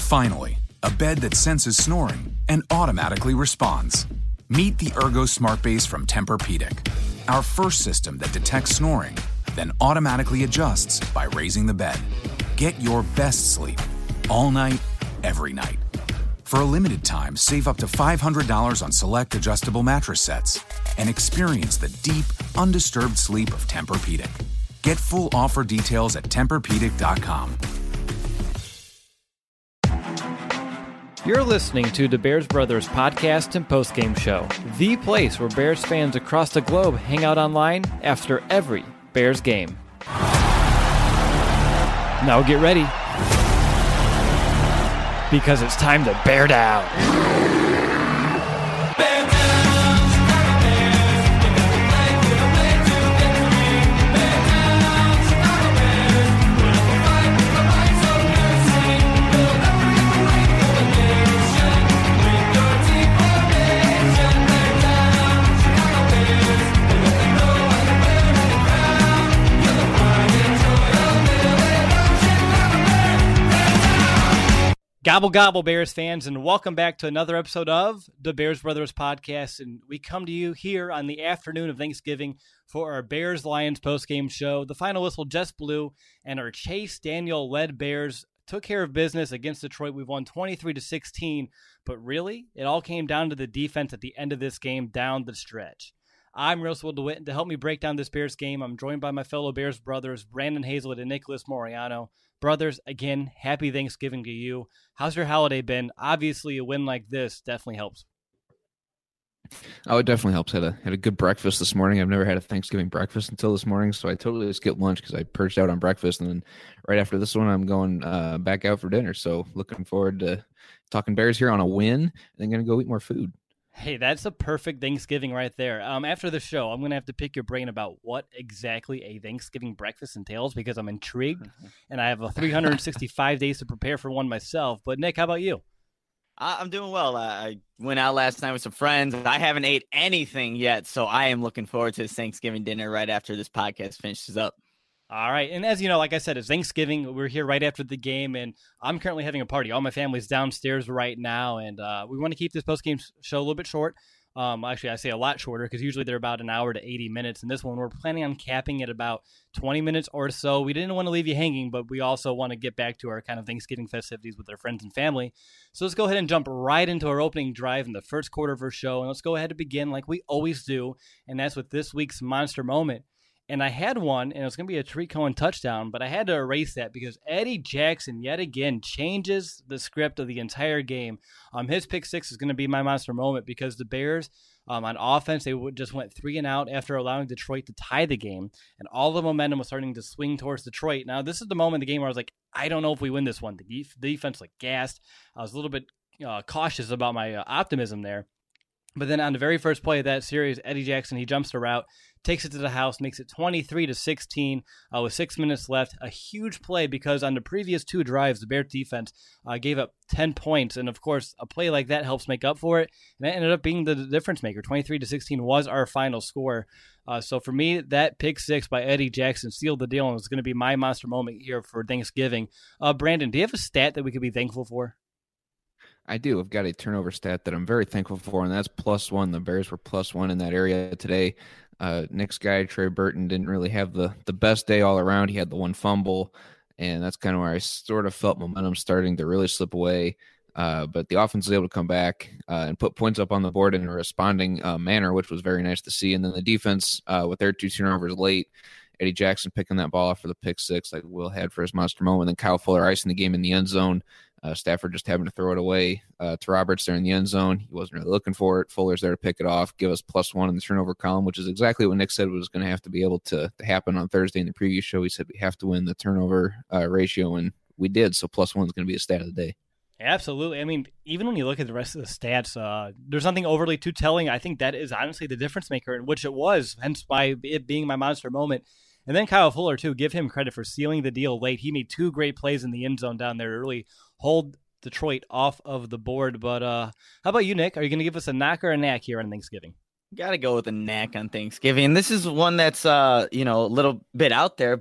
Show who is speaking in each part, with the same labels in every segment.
Speaker 1: Finally, a bed that senses snoring and automatically responds. Meet the Ergo Smart Base from Tempur-Pedic, our first system that detects snoring, then automatically adjusts by raising the bed. Get your best sleep all night, every night. For a limited time, save up to $500 on select adjustable mattress sets and experience the deep, undisturbed sleep of Tempur-Pedic. Get full offer details at TempurPedic.com.
Speaker 2: You're listening to the Bears Brothers podcast and postgame show, the place where Bears fans across the globe hang out online after every Bears game. Now get ready, because it's time to bear down. Gobble, gobble, Bears fans, and welcome back to another episode of the Bears Brothers podcast. And we come to you here on the afternoon of Thanksgiving for our Bears-Lions postgame show. The final whistle just blew, and our Chase Daniel-led Bears took care of business against Detroit. We've won 23-16, but really, it all came down to the defense at the end of this game down the stretch. I'm Russell DeWitt, and to help me break down this Bears game, I'm joined by my fellow Bears brothers, Brandon Hazlett and Nicholas Moriano. Brothers, again, happy Thanksgiving to you. How's your holiday been? Obviously, a win like this definitely helps.
Speaker 3: Oh, it definitely helps. Had a good breakfast this morning. I've never had a Thanksgiving breakfast until this morning, so I totally skipped lunch because I purged out on breakfast, and then right after this one, I'm going back out for dinner. So looking forward to talking Bears here on a win, and then going to go eat more food.
Speaker 2: Hey, that's a perfect Thanksgiving right there. After the show, I'm going to have to pick your brain about what exactly a Thanksgiving breakfast entails because I'm intrigued, and I have 365 days to prepare for one myself. But, Nick, how about you?
Speaker 4: I'm doing well. I went out last night with some friends. I haven't ate anything yet, so I am looking forward to this Thanksgiving dinner right after this podcast finishes up.
Speaker 2: All right. And as you know, like I said, it's Thanksgiving. We're here right after the game, and I'm currently having a party. All my family's downstairs right now, and we want to keep this postgame show a little bit short. Actually, I say a lot shorter because usually they're about an hour to 80 minutes. And this one, we're planning on capping at about 20 minutes or so. We didn't want to leave you hanging, but we also want to get back to our kind of Thanksgiving festivities with our friends and family. So let's go ahead and jump right into our opening drive in the first quarter of our show. And let's go ahead and begin like we always do, and that's with this week's Monster Moment. And I had one, and it was going to be a Tariq Cohen touchdown, but I had to erase that because Eddie Jackson yet again changes the script of the entire game. His pick six is going to be my monster moment because the Bears on offense, they just went 3 and out after allowing Detroit to tie the game, and all the momentum was starting to swing towards Detroit. Now, this is the moment in the game where I was like, I don't know if we win this one. The defense like gassed. I was a little bit cautious about my optimism there. But then on the very first play of that series, Eddie Jackson, he jumps the route, takes it to the house, makes it 23-16 with 6 minutes left. A huge play because on the previous 2 drives, the Bears defense gave up 10 points. And, of course, a play like that helps make up for it. And that ended up being the difference maker. 23-16 was our final score. So for me, that pick six by Eddie Jackson sealed the deal and was going to be my monster moment here for Thanksgiving. Brandon, do you have a stat that we could be thankful for?
Speaker 3: I do. I've got a turnover stat that I'm very thankful for, and that's +1. The Bears were +1 in that area today. Nick's guy, Trey Burton, didn't really have the best day all around. He had the one fumble, and that's kind of where I sort of felt momentum starting to really slip away. But the offense was able to come back and put points up on the board in a responding manner, which was very nice to see. And then the defense, with their 2 turnovers late, Eddie Jackson picking that ball off for the pick six like Will had for his monster moment. And then Kyle Fuller icing the game in the end zone. Stafford just having to throw it away to Roberts there in the end zone. He wasn't really looking for it. Fuller's there to pick it off, give us +1 in the turnover column, which is exactly what Nick said was going to have to be able to happen on Thursday in the previous show. He said we have to win the turnover ratio, and we did. So +1 is going to be the stat of the day.
Speaker 2: Absolutely. I mean, even when you look at the rest of the stats, there's nothing overly too telling. I think that is honestly the difference maker, in which it was, hence by it being my monster moment. And then Kyle Fuller, too, give him credit for sealing the deal late. He made 2 great plays in the end zone down there to really hold Detroit off of the board. But how about you, Nick? Are you going to give us a knock or a knack here on Thanksgiving?
Speaker 4: Got to go with a knack on Thanksgiving. This is one that's, a little bit out there, but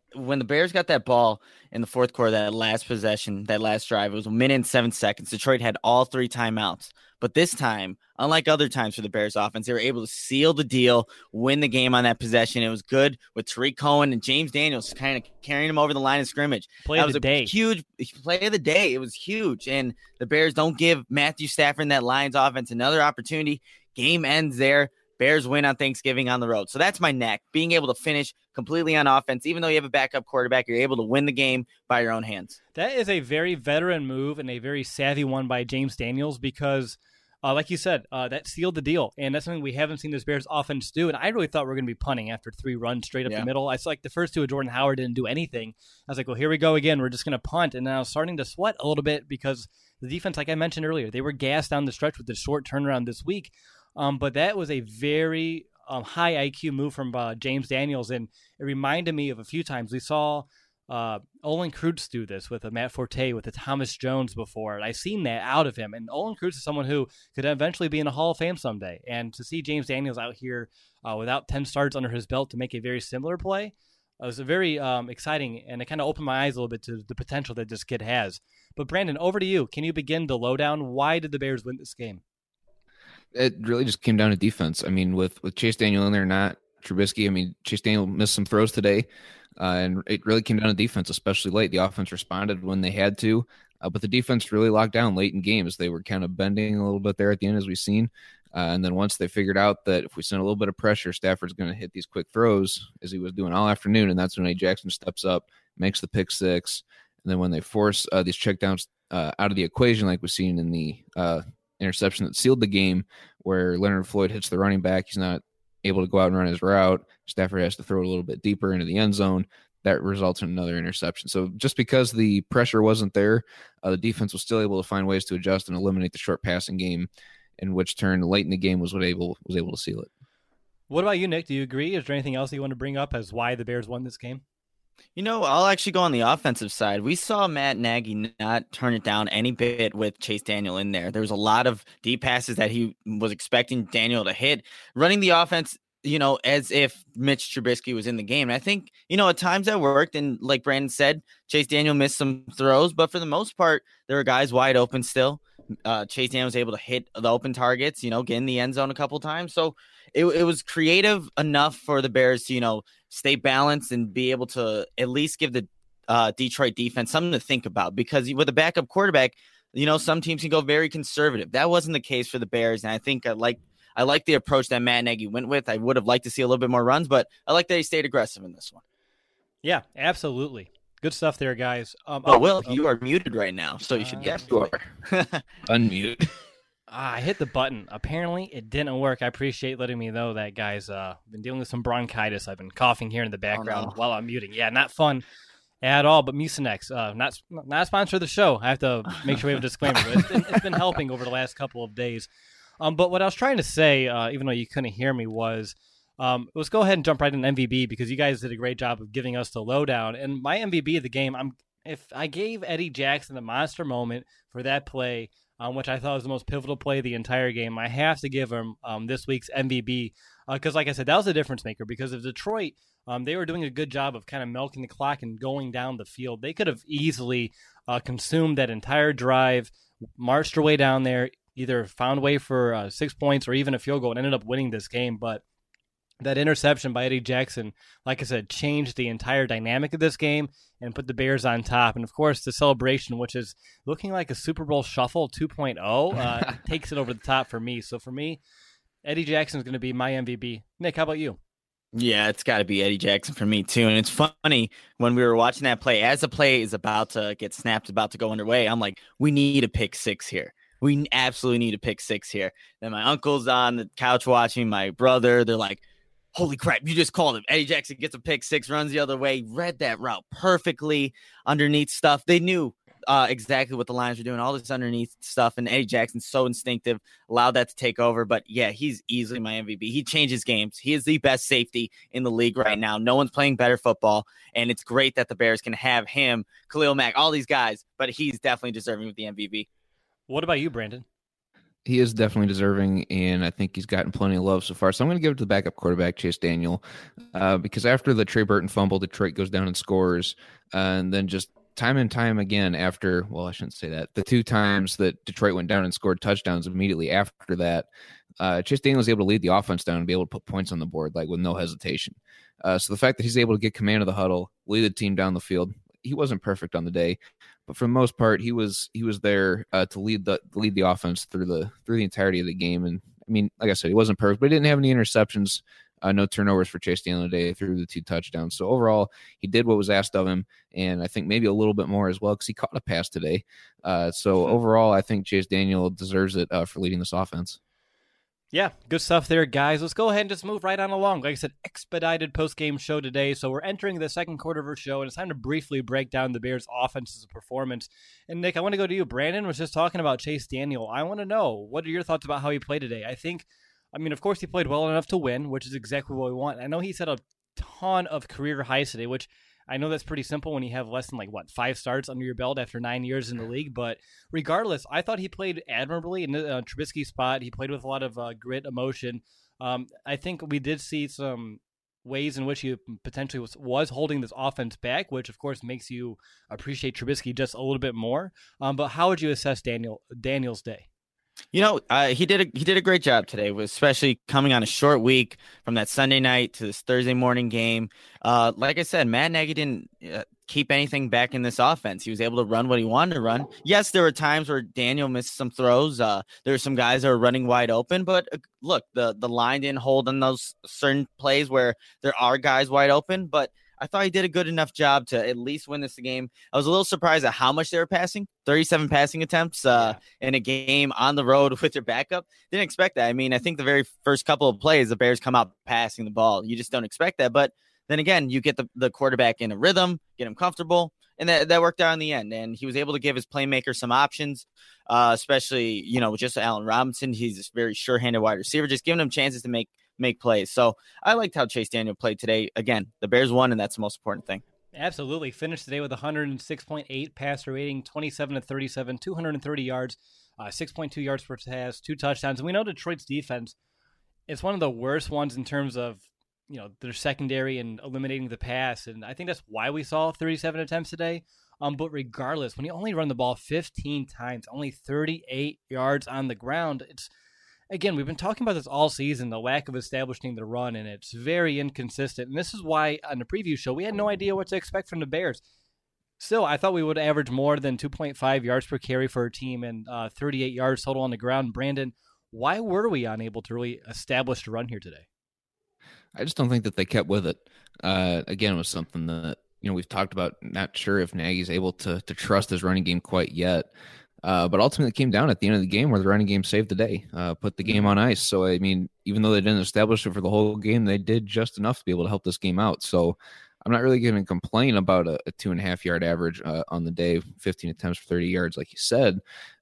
Speaker 4: when the Bears got that ball in the fourth quarter, that last possession, that last drive, it was 1 minute and 7 seconds. Detroit had all 3 timeouts. But this time, unlike other times for the Bears offense, they were able to seal the deal, win the game on that possession. It was good with Tariq Cohen and James Daniels kind of carrying him over the line of scrimmage.
Speaker 2: Play of the day.
Speaker 4: Huge play of the day. It was huge. And the Bears don't give Matthew Stafford and that Lions offense another opportunity. Game ends there. Bears win on Thanksgiving on the road. So that's my neck. Being able to finish completely on offense, even though you have a backup quarterback, you're able to win the game by your own hands.
Speaker 2: That is a very veteran move and a very savvy one by James Daniels because, like you said, that sealed the deal. And that's something we haven't seen this Bears offense do. And I really thought we were going to be punting after 3 runs straight up the middle. I saw like the first 2 of Jordan Howard didn't do anything. I was like, well, here we go again. We're just going to punt. And then I was starting to sweat a little bit because the defense, like I mentioned earlier, they were gassed down the stretch with the short turnaround this week. But that was a very high IQ move from James Daniels, and it reminded me of a few times we saw Olin Kreutz do this with a Matt Forte, with a Thomas Jones before, and I've seen that out of him. And Olin Kreutz is someone who could eventually be in a Hall of Fame someday, and to see James Daniels out here without 10 starts under his belt to make a very similar play was a very exciting, and it kind of opened my eyes a little bit to the potential that this kid has. But Brandon, over to you. Can you begin the lowdown? Why did the Bears win this game?
Speaker 3: It really just came down to defense. I mean, with Chase Daniel in there, not Trubisky. I mean, Chase Daniel missed some throws today, and it really came down to defense, especially late. The offense responded when they had to, but the defense really locked down late in games. They were kind of bending a little bit there at the end, as we've seen. And then once they figured out that if we send a little bit of pressure, Stafford's going to hit these quick throws, as he was doing all afternoon, and that's when A. Jackson steps up, makes the pick six. And then when they force these checkdowns out of the equation, like we've seen in the interception that sealed the game, where Leonard Floyd hits the running back, he's not able to go out and run his route. Stafford has to throw it a little bit deeper into the end zone. That results in another interception. So just because the pressure wasn't there, the defense was still able to find ways to adjust and eliminate the short passing game, in which turn late in the game was able to seal it.
Speaker 2: What about you, Nick? Do you agree? Is there anything else you want to bring up as why the Bears won this game?
Speaker 4: You know, I'll actually go on the offensive side. We saw Matt Nagy not turn it down any bit with Chase Daniel in there. There was a lot of deep passes that he was expecting Daniel to hit, running the offense, you know, as if Mitch Trubisky was in the game. And I think, you know, at times that worked. And like Brandon said, Chase Daniel missed some throws, but for the most part, there were guys wide open still. Chase Daniel was able to hit the open targets, you know, get in the end zone a couple times. So it was creative enough for the Bears to, you know, stay balanced and be able to at least give the Detroit defense something to think about, because with a backup quarterback, you know, some teams can go very conservative. That wasn't the case for the Bears. And I think I like the approach that Matt Nagy went with. I would have liked to see a little bit more runs, but I like that he stayed aggressive in this one.
Speaker 2: Yeah, absolutely. Good stuff there, guys.
Speaker 4: Will, you are muted right now, so you should get
Speaker 3: you are. Unmute.
Speaker 2: I hit the button. Apparently, it didn't work. I appreciate letting me know that, guys. Been dealing with some bronchitis. I've been coughing here in the background while I'm muting. Yeah, not fun at all. But Mucinex, not a sponsor of the show. I have to make sure we have a disclaimer. But it's been helping over the last couple of days. But what I was trying to say, even though you couldn't hear me, was let's go ahead and jump right into MVB, because you guys did a great job of giving us the lowdown. And my MVP of the game, if I gave Eddie Jackson the monster moment for that play, which I thought was the most pivotal play of the entire game, I have to give him this week's MVP, because like I said, that was a difference maker. Because of Detroit, they were doing a good job of kind of milking the clock and going down the field. They could have easily consumed that entire drive, marched their way down there, either found a way for 6 points or even a field goal, and ended up winning this game. But that interception by Eddie Jackson, like I said, changed the entire dynamic of this game and put the Bears on top. And, of course, the celebration, which is looking like a Super Bowl Shuffle 2.0, takes it over the top for me. So, for me, Eddie Jackson is going to be my MVP. Nick, how about you?
Speaker 4: Yeah, it's got to be Eddie Jackson for me, too. And it's funny, when we were watching that play, as the play is about to get snapped, about to go underway, I'm like, we need a pick six here. We absolutely need a pick six here. Then my uncle's on the couch watching, my brother, they're like, holy crap, you just called him. Eddie Jackson gets a pick six, runs the other way, read that route perfectly underneath stuff. They knew exactly what the Lions were doing, all this underneath stuff, and Eddie Jackson's so instinctive, allowed that to take over. But, yeah, he's easily my MVP. He changes games. He is the best safety in the league right now. No one's playing better football, and it's great that the Bears can have him, Khalil Mack, all these guys, but he's definitely deserving of the MVP.
Speaker 2: What about you, Brandon?
Speaker 3: He is definitely deserving, and I think he's gotten plenty of love so far. So I'm going to give it to the backup quarterback, Chase Daniel, because after the Trey Burton fumble, Detroit goes down and scores, and then just time and time again after, well, I shouldn't say that, the 2 times that Detroit went down and scored touchdowns immediately after that, Chase Daniel was able to lead the offense down and be able to put points on the board, like with no hesitation. So the fact that he's able to get command of the huddle, lead the team down the field, he wasn't perfect on the day, but for the most part, he was there to lead the offense through the entirety of the game. And I mean, like I said, he wasn't perfect, but he didn't have any interceptions, no turnovers for Chase Daniel today through the 2 touchdowns. So overall, he did what was asked of him, and I think maybe a little bit more as well because he caught a pass today. So overall, I think Chase Daniel deserves it for leading this offense.
Speaker 2: Yeah, good stuff there, guys. Let's go ahead and just move right on along. Like I said, expedited post-game show today. So we're entering the second quarter of our show, and it's time to briefly break down the Bears' offense's performance. And, Nick, I want to go to you. Brandon was just talking about Chase Daniel. I want to know, what are your thoughts about how he played today? I mean, of course, he played well enough to win, which is exactly what we want. I know he set a ton of career highs today, which I know that's pretty simple when you have less than 5 starts under your belt after 9 years in the league. But regardless, I thought he played admirably in Trubisky's spot. He played with a lot of grit, emotion. I think we did see some ways in which he potentially was holding this offense back, which of course makes you appreciate Trubisky just a little bit more. But how would you assess Daniel's day?
Speaker 4: He did a great job today, especially coming on a short week from that Sunday night to this Thursday morning game. Like I said, Matt Nagy didn't keep anything back in this offense. He was able to run what he wanted to run. Yes, there were times where Daniel missed some throws. There were some guys that were running wide open, but look, the line didn't hold on those certain plays where there are guys wide open, but I thought he did a good enough job to at least win this game. I was a little surprised at how much they were passing. 37 passing attempts in a game on the road with their backup. Didn't expect that. I mean, I think the very first couple of plays, the Bears come out passing the ball. You just don't expect that. But then again, you get the quarterback in a rhythm, get him comfortable, and that worked out in the end. And he was able to give his playmaker some options, especially, just Allen Robinson. He's a very sure-handed wide receiver, just giving him chances to make plays. So I liked how Chase Daniel played today. Again, the Bears won, and that's the most important thing.
Speaker 2: Absolutely. Finished today with 106.8 passer rating, 27-37, 230 yards, 6.2 yards per pass, 2 touchdowns. And we know Detroit's defense is one of the worst ones in terms of, their secondary and eliminating the pass. And I think that's why we saw 37 attempts today. But regardless, when you only run the ball 15 times, only 38 yards on the ground, again, we've been talking about this all season, the lack of establishing the run, and it's very inconsistent. And this is why on the preview show, we had no idea what to expect from the Bears. Still, I thought we would average more than 2.5 yards per carry for our team and 38 yards total on the ground. Brandon, why were we unable to really establish the run here today?
Speaker 3: I just don't think that they kept with it. Again, it was something that, we've talked about, not sure if Nagy's able to trust his running game quite yet. But ultimately, it came down at the end of the game where the running game saved the day, put the game on ice. So, I mean, even though they didn't establish it for the whole game, they did just enough to be able to help this game out. So I'm not really going to complain about a 2.5 yard average on the day, 15 attempts for 30 yards, like you said.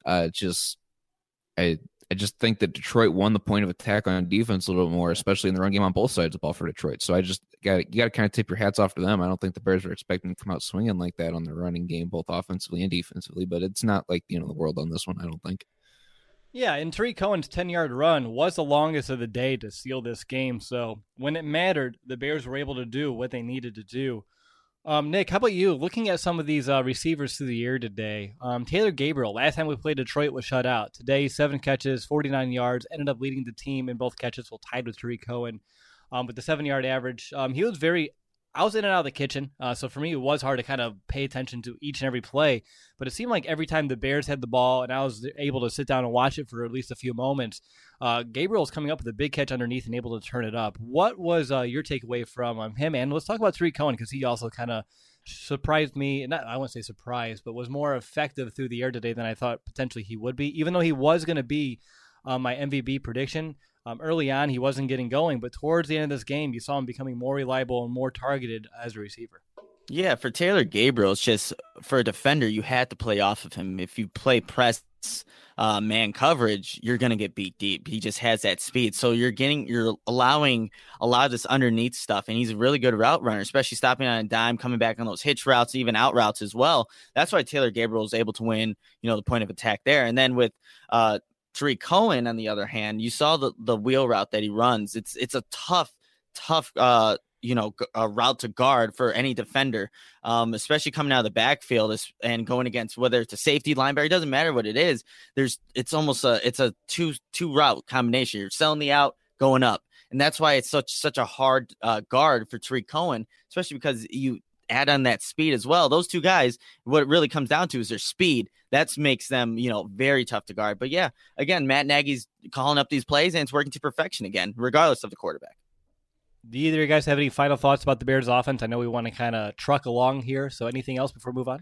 Speaker 3: I just think that Detroit won the point of attack on defense a little bit more, especially in the run game on both sides of the ball for Detroit. So you got to kind of tip your hats off to them. I don't think the Bears were expecting to come out swinging like that on the running game, both offensively and defensively, but it's not like the end of the world on this one, I don't think.
Speaker 2: Yeah, and Tariq Cohen's 10-yard run was the longest of the day to seal this game. So when it mattered, the Bears were able to do what they needed to do. Nick, how about you? Looking at some of these receivers through the year today, Taylor Gabriel, last time we played Detroit, was shut out. Today, 7 catches, 49 yards, ended up leading the team in both catches, while tied with Tariq Cohen. With the 7-yard average, I was in and out of the kitchen, so for me it was hard to kind of pay attention to each and every play, but it seemed like every time the Bears had the ball and I was able to sit down and watch it for at least a few moments, Gabriel's coming up with a big catch underneath and able to turn it up. What was your takeaway from him? And let's talk about Tariq Cohen, because he also kind of surprised me. I wouldn't say surprised, but was more effective through the air today than I thought potentially he would be, even though he was going to be my MVP prediction. Early on, he wasn't getting going, but towards the end of this game, you saw him becoming more reliable and more targeted as a receiver.
Speaker 4: Yeah, for Taylor Gabriel, it's just, for a defender, you had to play off of him. If you play press man coverage, you're going to get beat deep. He just has that speed. So you're allowing a lot of this underneath stuff, and he's a really good route runner, especially stopping on a dime, coming back on those hitch routes, even out routes as well. That's why Taylor Gabriel is able to win, the point of attack there. And then with Tariq Cohen, on the other hand, you saw the wheel route that he runs. It's a tough a route to guard for any defender, especially coming out of the backfield and going against whether it's a safety, linebacker, it doesn't matter what it is. It's almost a two route combination. You're selling the out, going up. And that's why it's such a hard guard for Tariq Cohen, especially because you add on that speed as well. Those two guys, what it really comes down to is their speed. That makes them, very tough to guard. But yeah, again, Matt Nagy's calling up these plays and it's working to perfection again, regardless of the quarterback.
Speaker 2: Do either of you guys have any final thoughts about the Bears offense? I know we want to kind of truck along here. So anything else before we move on?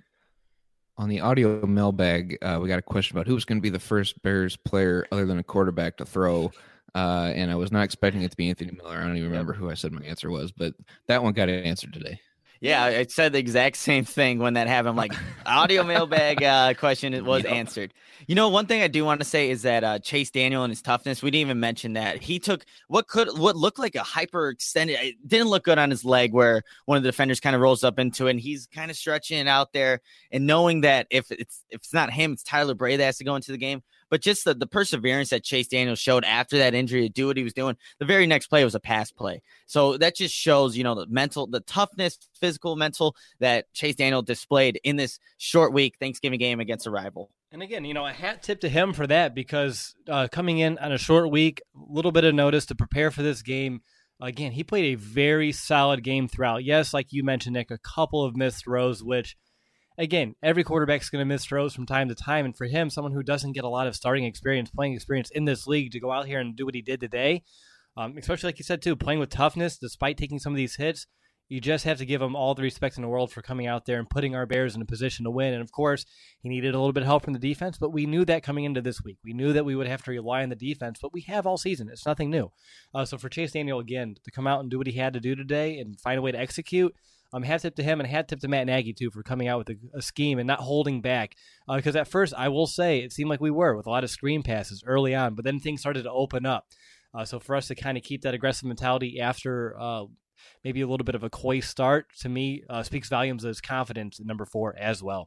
Speaker 3: On the audio mailbag, we got a question about who's going to be the first Bears player other than a quarterback to throw. And I was not expecting it to be Anthony Miller. I don't even remember who I said my answer was, but that one got answered today. Yeah,
Speaker 4: I said the exact same thing when that happened. I'm like, audio mailbag question was answered. One thing I do want to say is that Chase Daniel and his toughness, we didn't even mention that. He took what looked like a hyperextended, it didn't look good on his leg where one of the defenders kind of rolls up into it, and he's kind of stretching it out there and knowing that if it's not him, it's Tyler Bray that has to go into the game. But just the perseverance that Chase Daniel showed after that injury to do what he was doing, the very next play was a pass play. So that just shows, the toughness, physical, mental that Chase Daniel displayed in this short week Thanksgiving game against a rival.
Speaker 2: And again, a hat tip to him for that because coming in on a short week, a little bit of notice to prepare for this game. Again, he played a very solid game throughout. Yes, like you mentioned, Nick, a couple of missed throws, which again, every quarterback's going to miss throws from time to time. And for him, someone who doesn't get a lot of starting experience, playing experience in this league to go out here and do what he did today, especially like you said, too, playing with toughness despite taking some of these hits, you just have to give him all the respect in the world for coming out there and putting our Bears in a position to win. And, of course, he needed a little bit of help from the defense, but we knew that coming into this week. We knew that we would have to rely on the defense, but we have all season. It's nothing new. So for Chase Daniel, again, to come out and do what he had to do today and find a way to execute, hat tip to him and hat tip to Matt Nagy, too, for coming out with a scheme and not holding back. Because at first, I will say, it seemed like we were with a lot of screen passes early on, but then things started to open up. So for us to kind of keep that aggressive mentality after maybe a little bit of a coy start, to me, speaks volumes of his confidence in number 4 as well.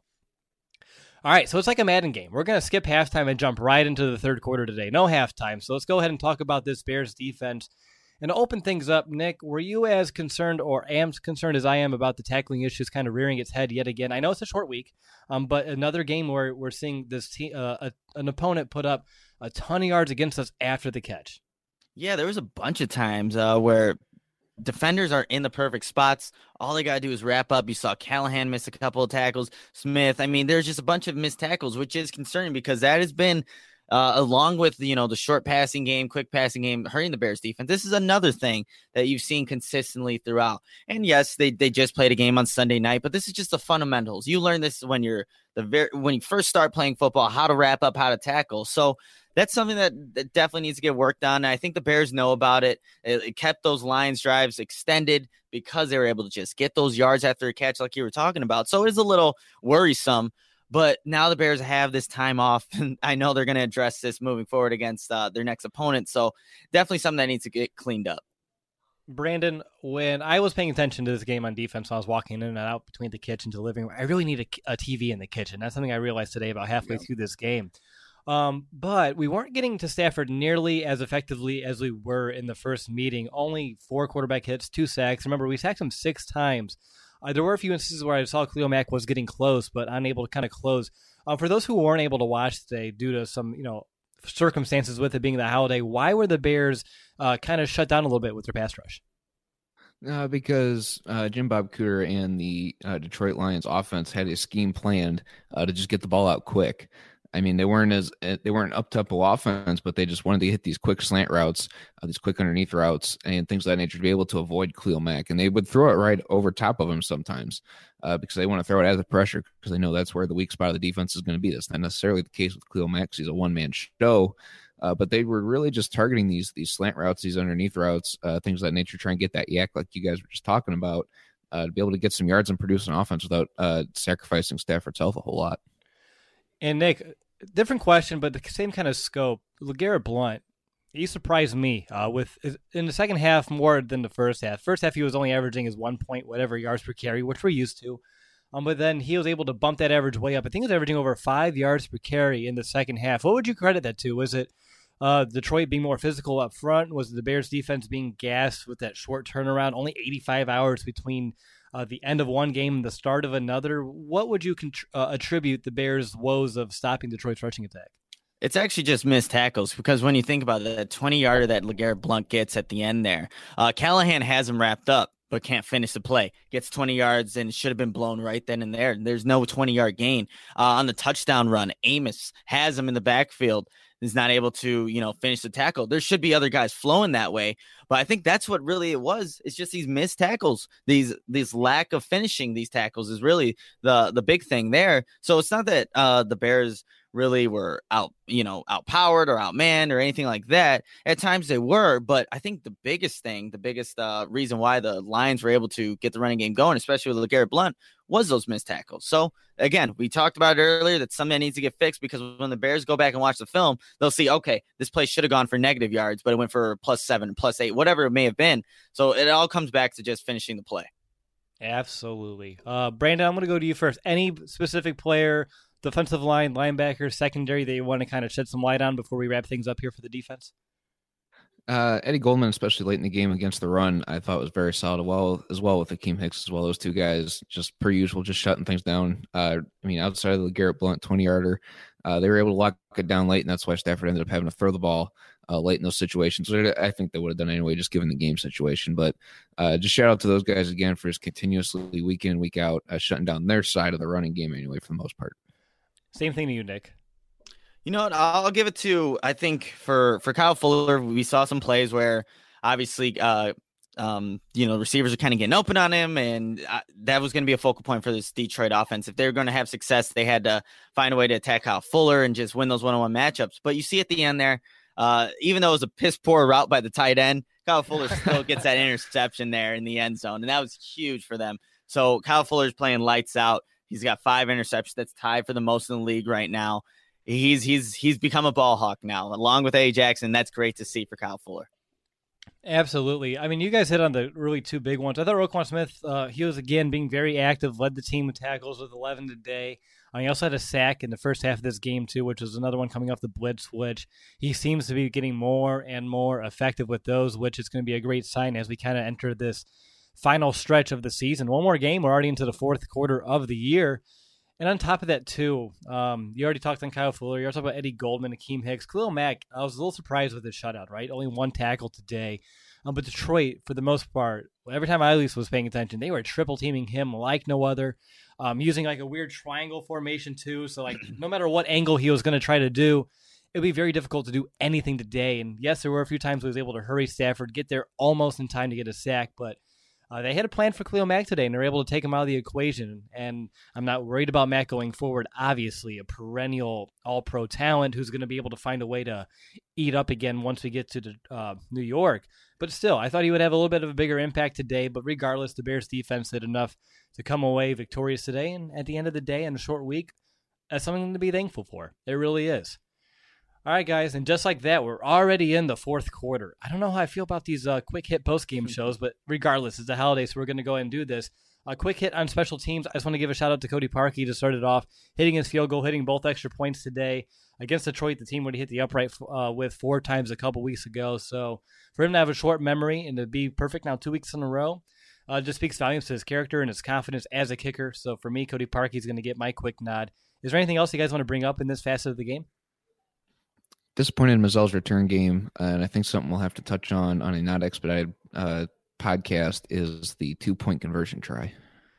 Speaker 2: All right, so it's like a Madden game. We're going to skip halftime and jump right into the third quarter today. No halftime, so let's go ahead and talk about this Bears defense. And to open things up, Nick, were you as concerned or as concerned as I am about the tackling issues kind of rearing its head yet again? I know it's a short week, but another game where we're seeing this an opponent put up a ton of yards against us after the catch.
Speaker 4: Yeah, there was a bunch of times where defenders are in the perfect spots. All they got to do is wrap up. You saw Callahan miss a couple of tackles. Smith. I mean, there's just a bunch of missed tackles, which is concerning because that has been along with, the short passing game, quick passing game, hurting the Bears defense. This is another thing that you've seen consistently throughout. And yes, they just played a game on Sunday night, but this is just the fundamentals. You learn this when when you first start playing football, how to wrap up, how to tackle. So that's something that definitely needs to get worked on. And I think the Bears know about it. It kept those Lions drives extended because they were able to just get those yards after a catch like you were talking about. So it is a little worrisome. But now the Bears have this time off, and I know they're going to address this moving forward against their next opponent. So definitely something that needs to get cleaned up.
Speaker 2: Brandon, when I was paying attention to this game on defense, when I was walking in and out between the kitchen to the living room, I really need a TV in the kitchen. That's something I realized today about halfway through this game. But we weren't getting to Stafford nearly as effectively as we were in the first meeting. Only 4 quarterback hits, 2 sacks. Remember, we sacked him 6 times. There were a few instances where I saw Khalil Mack was getting close, but unable to kind of close. For those who weren't able to watch today due to some, circumstances with it being the holiday, why were the Bears kind of shut down a little bit with their pass rush?
Speaker 3: Because Jim Bob Cooter and the Detroit Lions offense had a scheme planned to just get the ball out quick. I mean, they weren't up-tempo offense, but they just wanted to hit these quick slant routes, these quick underneath routes, and things of that nature to be able to avoid Khalil Mack. And they would throw it right over top of him sometimes because they want to throw it as a pressure because they know that's where the weak spot of the defense is going to be. That's not necessarily the case with Khalil Mack. He's a one-man show. But they were really just targeting these slant routes, these underneath routes, things of that nature, try and get that yak like you guys were just talking about to be able to get some yards and produce an offense without sacrificing Stafford's health a whole lot.
Speaker 2: And Nick, different question, but the same kind of scope. LeGarrette Blount, he surprised me with in the second half more than the first half. First half, he was only averaging his 1 point whatever yards per carry, which we're used to. But then he was able to bump that average way up. I think he was averaging over 5 yards per carry in the second half. What would you credit that to? Was it Detroit being more physical up front? Was it the Bears defense being gassed with that short turnaround? Only 85 hours between the end of one game and the start of another. What would you attribute the Bears' woes of stopping Detroit's rushing attack?
Speaker 4: It's actually just missed tackles, because when you think about it, that 20-yarder that LeGarrette Blount gets at the end there, Callahan has him wrapped up but can't finish the play. Gets 20 yards and should have been blown right then and there. There's no 20-yard gain. On the touchdown run, Amos has him in the backfield, is not able to, finish the tackle. There should be other guys flowing that way, but I think that's what really it was. It's just these missed tackles, these lack of finishing these tackles is really the big thing there. So it's not that the Bears really were outpowered or outmanned or anything like that. At times they were, but I think the biggest reason why the Lions were able to get the running game going, especially with LeGarrette Blount, was those missed tackles. So again, we talked about it earlier that something needs to get fixed, because when the Bears go back and watch the film, they'll see, okay, this play should have gone for negative yards, but it went for +7, +8, whatever it may have been. So it all comes back to just finishing the play.
Speaker 2: Absolutely. Brandon, I'm going to go to you first. Any specific player, defensive line, linebacker, secondary that you want to kind of shed some light on before we wrap things up here for the defense?
Speaker 3: Eddie Goldman, especially late in the game against the run, I thought was very solid. As well with Akeem Hicks as well. Those two guys, just per usual, just shutting things down. Outside of the LeGarrette Blount 20-yarder, they were able to lock it down late, and that's why Stafford ended up having to throw the ball late in those situations. So I think they would have done anyway, just given the game situation. But just shout out to those guys again for just continuously week in and week out shutting down their side of the running game anyway, for the most part.
Speaker 2: Same thing to you, Nick.
Speaker 4: You know what? I'll give it to, I think for Kyle Fuller, we saw some plays where obviously, receivers are kind of getting open on him, and that was going to be a focal point for this Detroit offense. If they were going to have success, they had to find a way to attack Kyle Fuller and just win those one-on-one matchups. But you see at the end there, even though it was a piss poor route by the tight end, Kyle Fuller still gets that interception there in the end zone, and that was huge for them. So Kyle Fuller's playing lights out. He's got 5 interceptions. That's tied for the most in the league right now. He's become a ball hawk now, along with A. Jackson. That's great to see for Kyle Fuller.
Speaker 2: Absolutely. I mean, you guys hit on the really two big ones. I thought Roquan Smith, he was, again, being very active, led the team with tackles with 11 today. He also had a sack in the first half of this game, too, which was another one coming off the blitz switch. He seems to be getting more and more effective with those, which is going to be a great sign as we kind of enter this final stretch of the season. One more game. We're already into the fourth quarter of the year. And on top of that, too, you already talked on Kyle Fuller. You also talked about Eddie Goldman, Akeem Hicks. Khalil Mack, I was a little surprised with his shutout, right? Only 1 tackle today. But Detroit, for the most part, every time I at least was paying attention, they were triple-teaming him like no other, using like a weird triangle formation, too. So, like, no matter what angle he was going to try to do, it would be very difficult to do anything today. And, yes, there were a few times he was able to hurry Stafford, get there almost in time to get a sack, but they had a plan for Khalil Mack today, and they were able to take him out of the equation. And I'm not worried about Mack going forward. Obviously, a perennial all-pro talent who's going to be able to find a way to eat up again once we get to New York. But still, I thought he would have a little bit of a bigger impact today. But regardless, the Bears defense did enough to come away victorious today. And at the end of the day, in a short week, that's something to be thankful for. It really is. All right, guys, and just like that, we're already in the fourth quarter. I don't know how I feel about these quick hit post-game shows, but regardless, it's the holiday, so we're going to go ahead and do this. A quick hit on special teams. I just want to give a shout-out to Cody Parkey to start it off, hitting his field goal, hitting both extra points today. Against Detroit, the team would hit the upright with 4 times a couple weeks ago. So for him to have a short memory and to be perfect now 2 weeks in a row just speaks volumes to his character and his confidence as a kicker. So for me, Cody Parkey is going to get my quick nod. Is there anything else you guys want to bring up in this facet of the game?
Speaker 3: Disappointed in Mazel's return game, and I think something we'll have to touch on a not expedited podcast is the 2-point conversion try.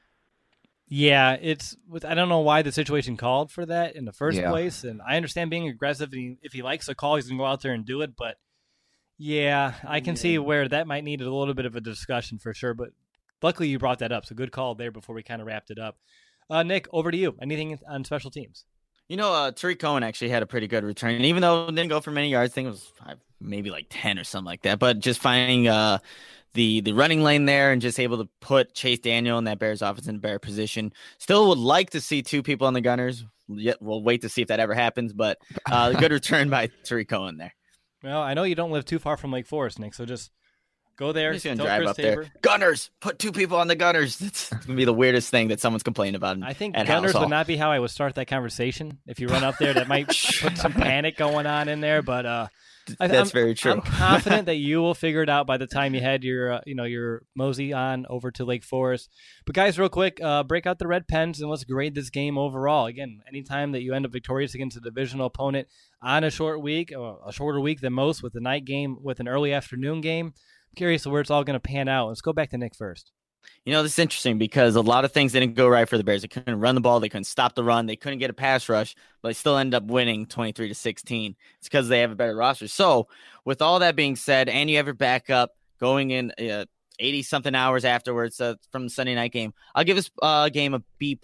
Speaker 2: Yeah, I don't know why the situation called for that in the first place, and I understand being aggressive. If he likes a call, he's going to go out there and do it, but yeah, I can see where that might need a little bit of a discussion for sure, but luckily you brought that up, so good call there before we kind of wrapped it up. Nick, over to you. Anything on special teams?
Speaker 4: You know, Tariq Cohen actually had a pretty good return. And even though it didn't go for many yards, I think it was maybe like 10 or something like that. But just finding the running lane there and just able to put Chase Daniel in that Bears offense in a better position. Still would like to see 2 people on the Gunners. We'll wait to see if that ever happens. But good return by Tariq Cohen there.
Speaker 2: Well, I know you don't live too far from Lake Forest, Nick, so just Go there.
Speaker 4: I'm just gonna
Speaker 2: tell
Speaker 4: drive
Speaker 2: Chris
Speaker 4: up
Speaker 2: Tabor.
Speaker 4: there. Gunners, put 2 people on the Gunners. It's gonna be the weirdest thing that someone's complaining about.
Speaker 2: I think
Speaker 4: at
Speaker 2: Gunners
Speaker 4: House
Speaker 2: would
Speaker 4: Hall.
Speaker 2: not be how I would start that conversation. If you run up there, that might put some panic going on in there. But
Speaker 4: That's very true.
Speaker 2: I'm confident that you will figure it out by the time you head your mosey on over to Lake Forest. But guys, real quick, break out the red pens and let's grade this game overall. Again, anytime that you end up victorious against a divisional opponent on a short week, or a shorter week than most, with a night game, with an early afternoon game, I'm curious where it's all going to pan out. Let's go back to Nick first.
Speaker 4: This is interesting because a lot of things didn't go right for the Bears. They couldn't run the ball. They couldn't stop the run. They couldn't get a pass rush, but they still ended up winning 23-16. It's because they have a better roster. So with all that being said, and you have your backup going in 80-something hours afterwards from the Sunday night game, I'll give this game a B+.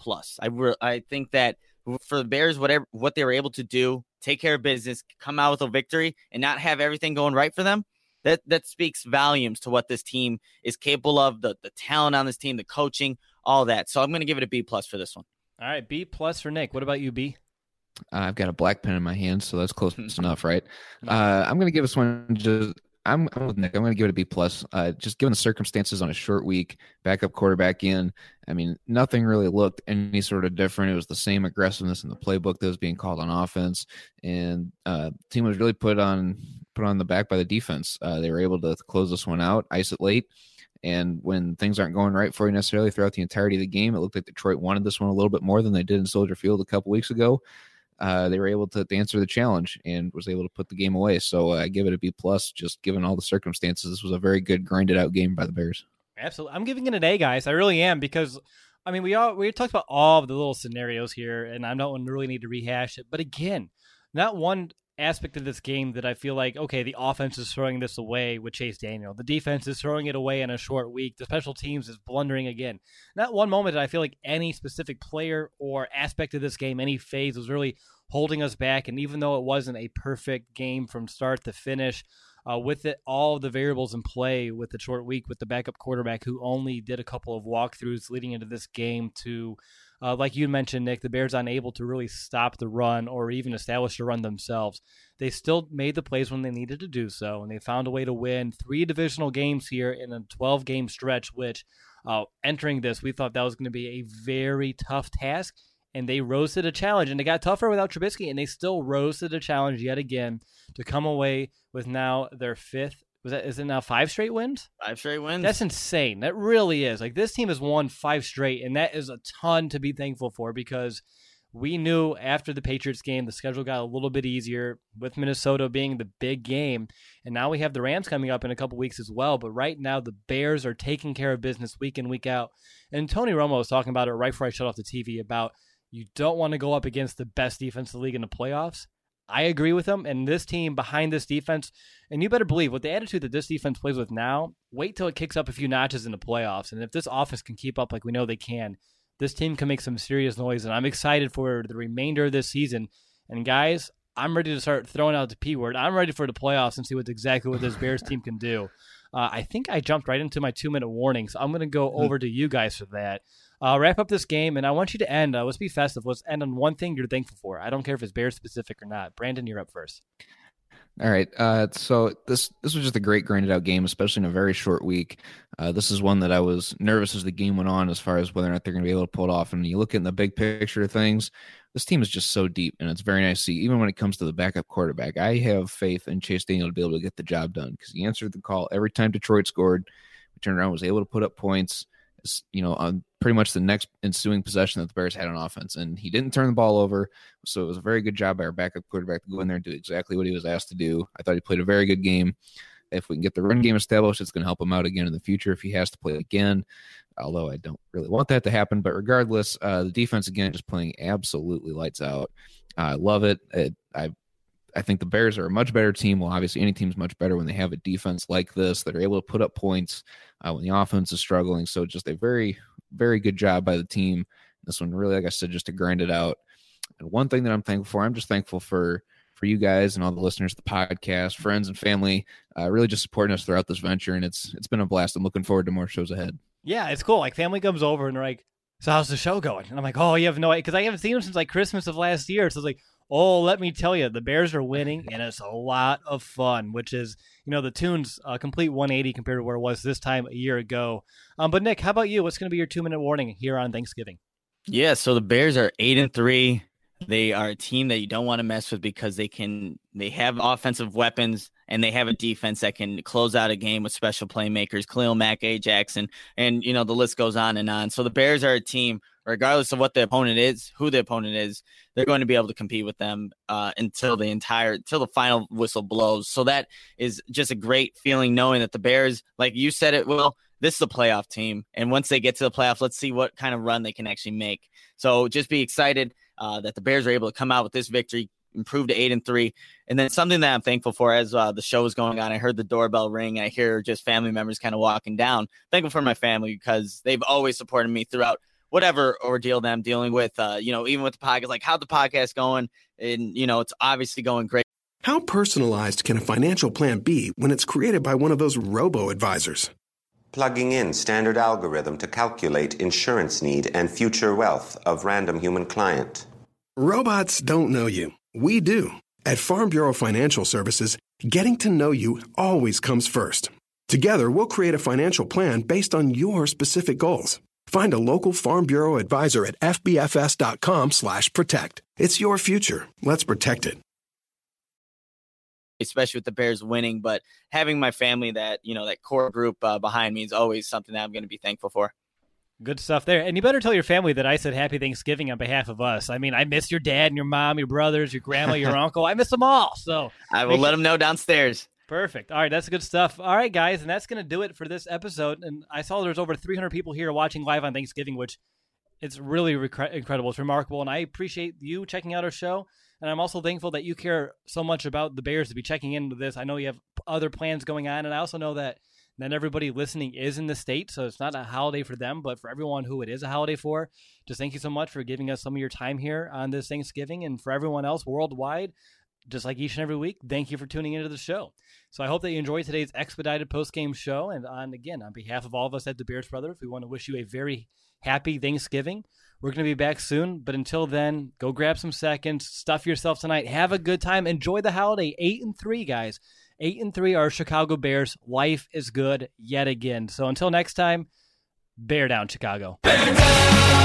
Speaker 4: I think that for the Bears, what they were able to do, take care of business, come out with a victory, and not have everything going right for them, that speaks volumes to what this team is capable of, the talent on this team, the coaching, all that. So I'm going to give it a B+ for this one.
Speaker 2: All right, B+ for Nick. What about you, B?
Speaker 3: I've got a black pen in my hand, so that's close enough, right? I'm going to give this one I'm with Nick. I'm going to give it a B+. Just given the circumstances on a short week, backup quarterback in, I mean, nothing really looked any sort of different. It was the same aggressiveness in the playbook that was being called on offense, and the team was really put on the back by the defense. They were able to close this one out, ice it late, and when things aren't going right for you necessarily throughout the entirety of the game, it looked like Detroit wanted this one a little bit more than they did in Soldier Field a couple weeks ago. They were able to answer the challenge and was able to put the game away. So I give it a B+, just given all the circumstances. This was a very good grinded out game by the Bears.
Speaker 2: Absolutely. I'm giving it an A, guys. I really am, because I mean, we talked about all of the little scenarios here, and I don't really need to rehash it. But again, not one aspect of this game that I feel like, okay, the offense is throwing this away with Chase Daniel. The defense is throwing it away in a short week. The special teams is blundering again. Not one moment did I feel like any specific player or aspect of this game, any phase, was really holding us back. And even though it wasn't a perfect game from start to finish, with it, all of the variables in play with the short week, with the backup quarterback who only did a couple of walkthroughs leading into this game, to like you mentioned, Nick, the Bears unable to really stop the run or even establish the run themselves. They still made the plays when they needed to do so, and they found a way to win 3 divisional games here in a 12-game stretch, which entering this, we thought that was going to be a very tough task, and they rose to the challenge. And it got tougher without Trubisky, and they still rose to the challenge yet again to come away with now their 5th. Is it now 5 straight wins?
Speaker 4: 5 straight wins.
Speaker 2: That's insane. That really is. Like, this team has won 5 straight, and that is a ton to be thankful for, because we knew after the Patriots game, the schedule got a little bit easier, with Minnesota being the big game. And now we have the Rams coming up in a couple weeks as well. But right now, the Bears are taking care of business week in, week out. And Tony Romo was talking about it right before I shut off the TV about you don't want to go up against the best defense in the league in the playoffs. I agree with him, and this team behind this defense, and you better believe with the attitude that this defense plays with now, wait till it kicks up a few notches in the playoffs. And if this offense can keep up like we know they can, this team can make some serious noise, and I'm excited for the remainder of this season. And guys, I'm ready to start throwing out the P word. I'm ready for the playoffs and see exactly what this Bears team can do. I think I jumped right into my 2-minute warning, so I'm going to go over to you guys for that. Wrap up this game, and I want you to end. Let's be festive. Let's end on one thing you're thankful for. I don't care if it's Bears specific or not. Brandon, you're up first.
Speaker 3: All right. So this was just a great grinded out game, especially in a very short week. This is one that I was nervous as the game went on, as far as whether or not they're going to be able to pull it off. And you look at the big picture of things, this team is just so deep, and it's very nice to see. Even when it comes to the backup quarterback, I have faith in Chase Daniel to be able to get the job done, because he answered the call every time Detroit scored. He turned around, was able to put up points, on pretty much the next ensuing possession that the Bears had on offense. And he didn't turn the ball over. So it was a very good job by our backup quarterback to go in there and do exactly what he was asked to do. I thought he played a very good game. If we can get the run game established, it's going to help him out again in the future if he has to play again, although I don't really want that to happen. But regardless, the defense, again, just playing absolutely lights out. I love it. I think the Bears are a much better team. Well, obviously, any team's much better when they have a defense like this that are able to put up points when the offense is struggling. So just a very, very good job by the team. This one really, like I said, just to grind it out. And one thing that I'm thankful for, I'm just thankful for you guys and all the listeners to the podcast, friends and family, really just supporting us throughout this venture. And it's been a blast. I'm looking forward to more shows ahead.
Speaker 2: Yeah, it's cool. Like, family comes over and they're like, so how's the show going? And I'm like, oh, you have no idea. Because I haven't seen them since like Christmas of last year. So it's like, Oh, let me tell you, the Bears are winning, and it's a lot of fun, which is, the tune's a complete 180 compared to where it was this time a year ago. But Nick, how about you? What's going to be your 2-minute warning here on Thanksgiving?
Speaker 4: Yeah, so the Bears are 8-3. They are a team that you don't want to mess with because they have offensive weapons and they have a defense that can close out a game with special playmakers, Khalil Mack, A. Jackson, and the list goes on and on. So the Bears are a team, regardless of what the opponent is, who the opponent is, they're going to be able to compete with them until the final whistle blows. So that is just a great feeling knowing that the Bears, like you said it, Will, this is a playoff team. And once they get to the playoffs, let's see what kind of run they can actually make. So just be excited that the Bears are able to come out with this victory, improve to 8-3. And then something that I'm thankful for as the show is going on, I heard the doorbell ring. And I hear just family members kind of walking down. Thankful for my family because they've always supported me throughout whatever ordeal that I'm dealing with, even with the podcast, like how's the podcast going? And, it's obviously going great.
Speaker 5: How personalized can a financial plan be when it's created by one of those robo-advisors?
Speaker 6: Plugging in standard algorithm to calculate insurance need and future wealth of random human client.
Speaker 5: Robots don't know you. We do. At Farm Bureau Financial Services, getting to know you always comes first. Together, we'll create a financial plan based on your specific goals. Find a local Farm Bureau advisor at fbfs.com/protect. It's your future. Let's protect it.
Speaker 4: Especially with the Bears winning, but having my family, that core group behind me is always something that I'm going to be thankful for.
Speaker 2: Good stuff there. And you better tell your family that I said happy Thanksgiving on behalf of us. I mean, I miss your dad and your mom, your brothers, your grandma, your uncle. I miss them all. So
Speaker 4: I will let them know downstairs.
Speaker 2: Perfect. All right, that's good stuff. All right, guys, and that's going to do it for this episode. And I saw there's over 300 people here watching live on Thanksgiving, which it's really incredible. It's remarkable, and I appreciate you checking out our show. And I'm also thankful that you care so much about the Bears to be checking into this. I know you have other plans going on, and I also know that not everybody listening is in the state, so it's not a holiday for them, but for everyone who it is a holiday for, just thank you so much for giving us some of your time here on this Thanksgiving. And for everyone else worldwide, just like each and every week, thank you for tuning into the show. So I hope that you enjoyed today's expedited post-game show. And on behalf of all of us at the Bears Brothers, we want to wish you a very happy Thanksgiving. We're going to be back soon, but until then, go grab some seconds, stuff yourself tonight, have a good time, enjoy the holiday. 8-3, guys. 8-3 are Chicago Bears. Life is good yet again. So until next time, bear down, Chicago. Bear down!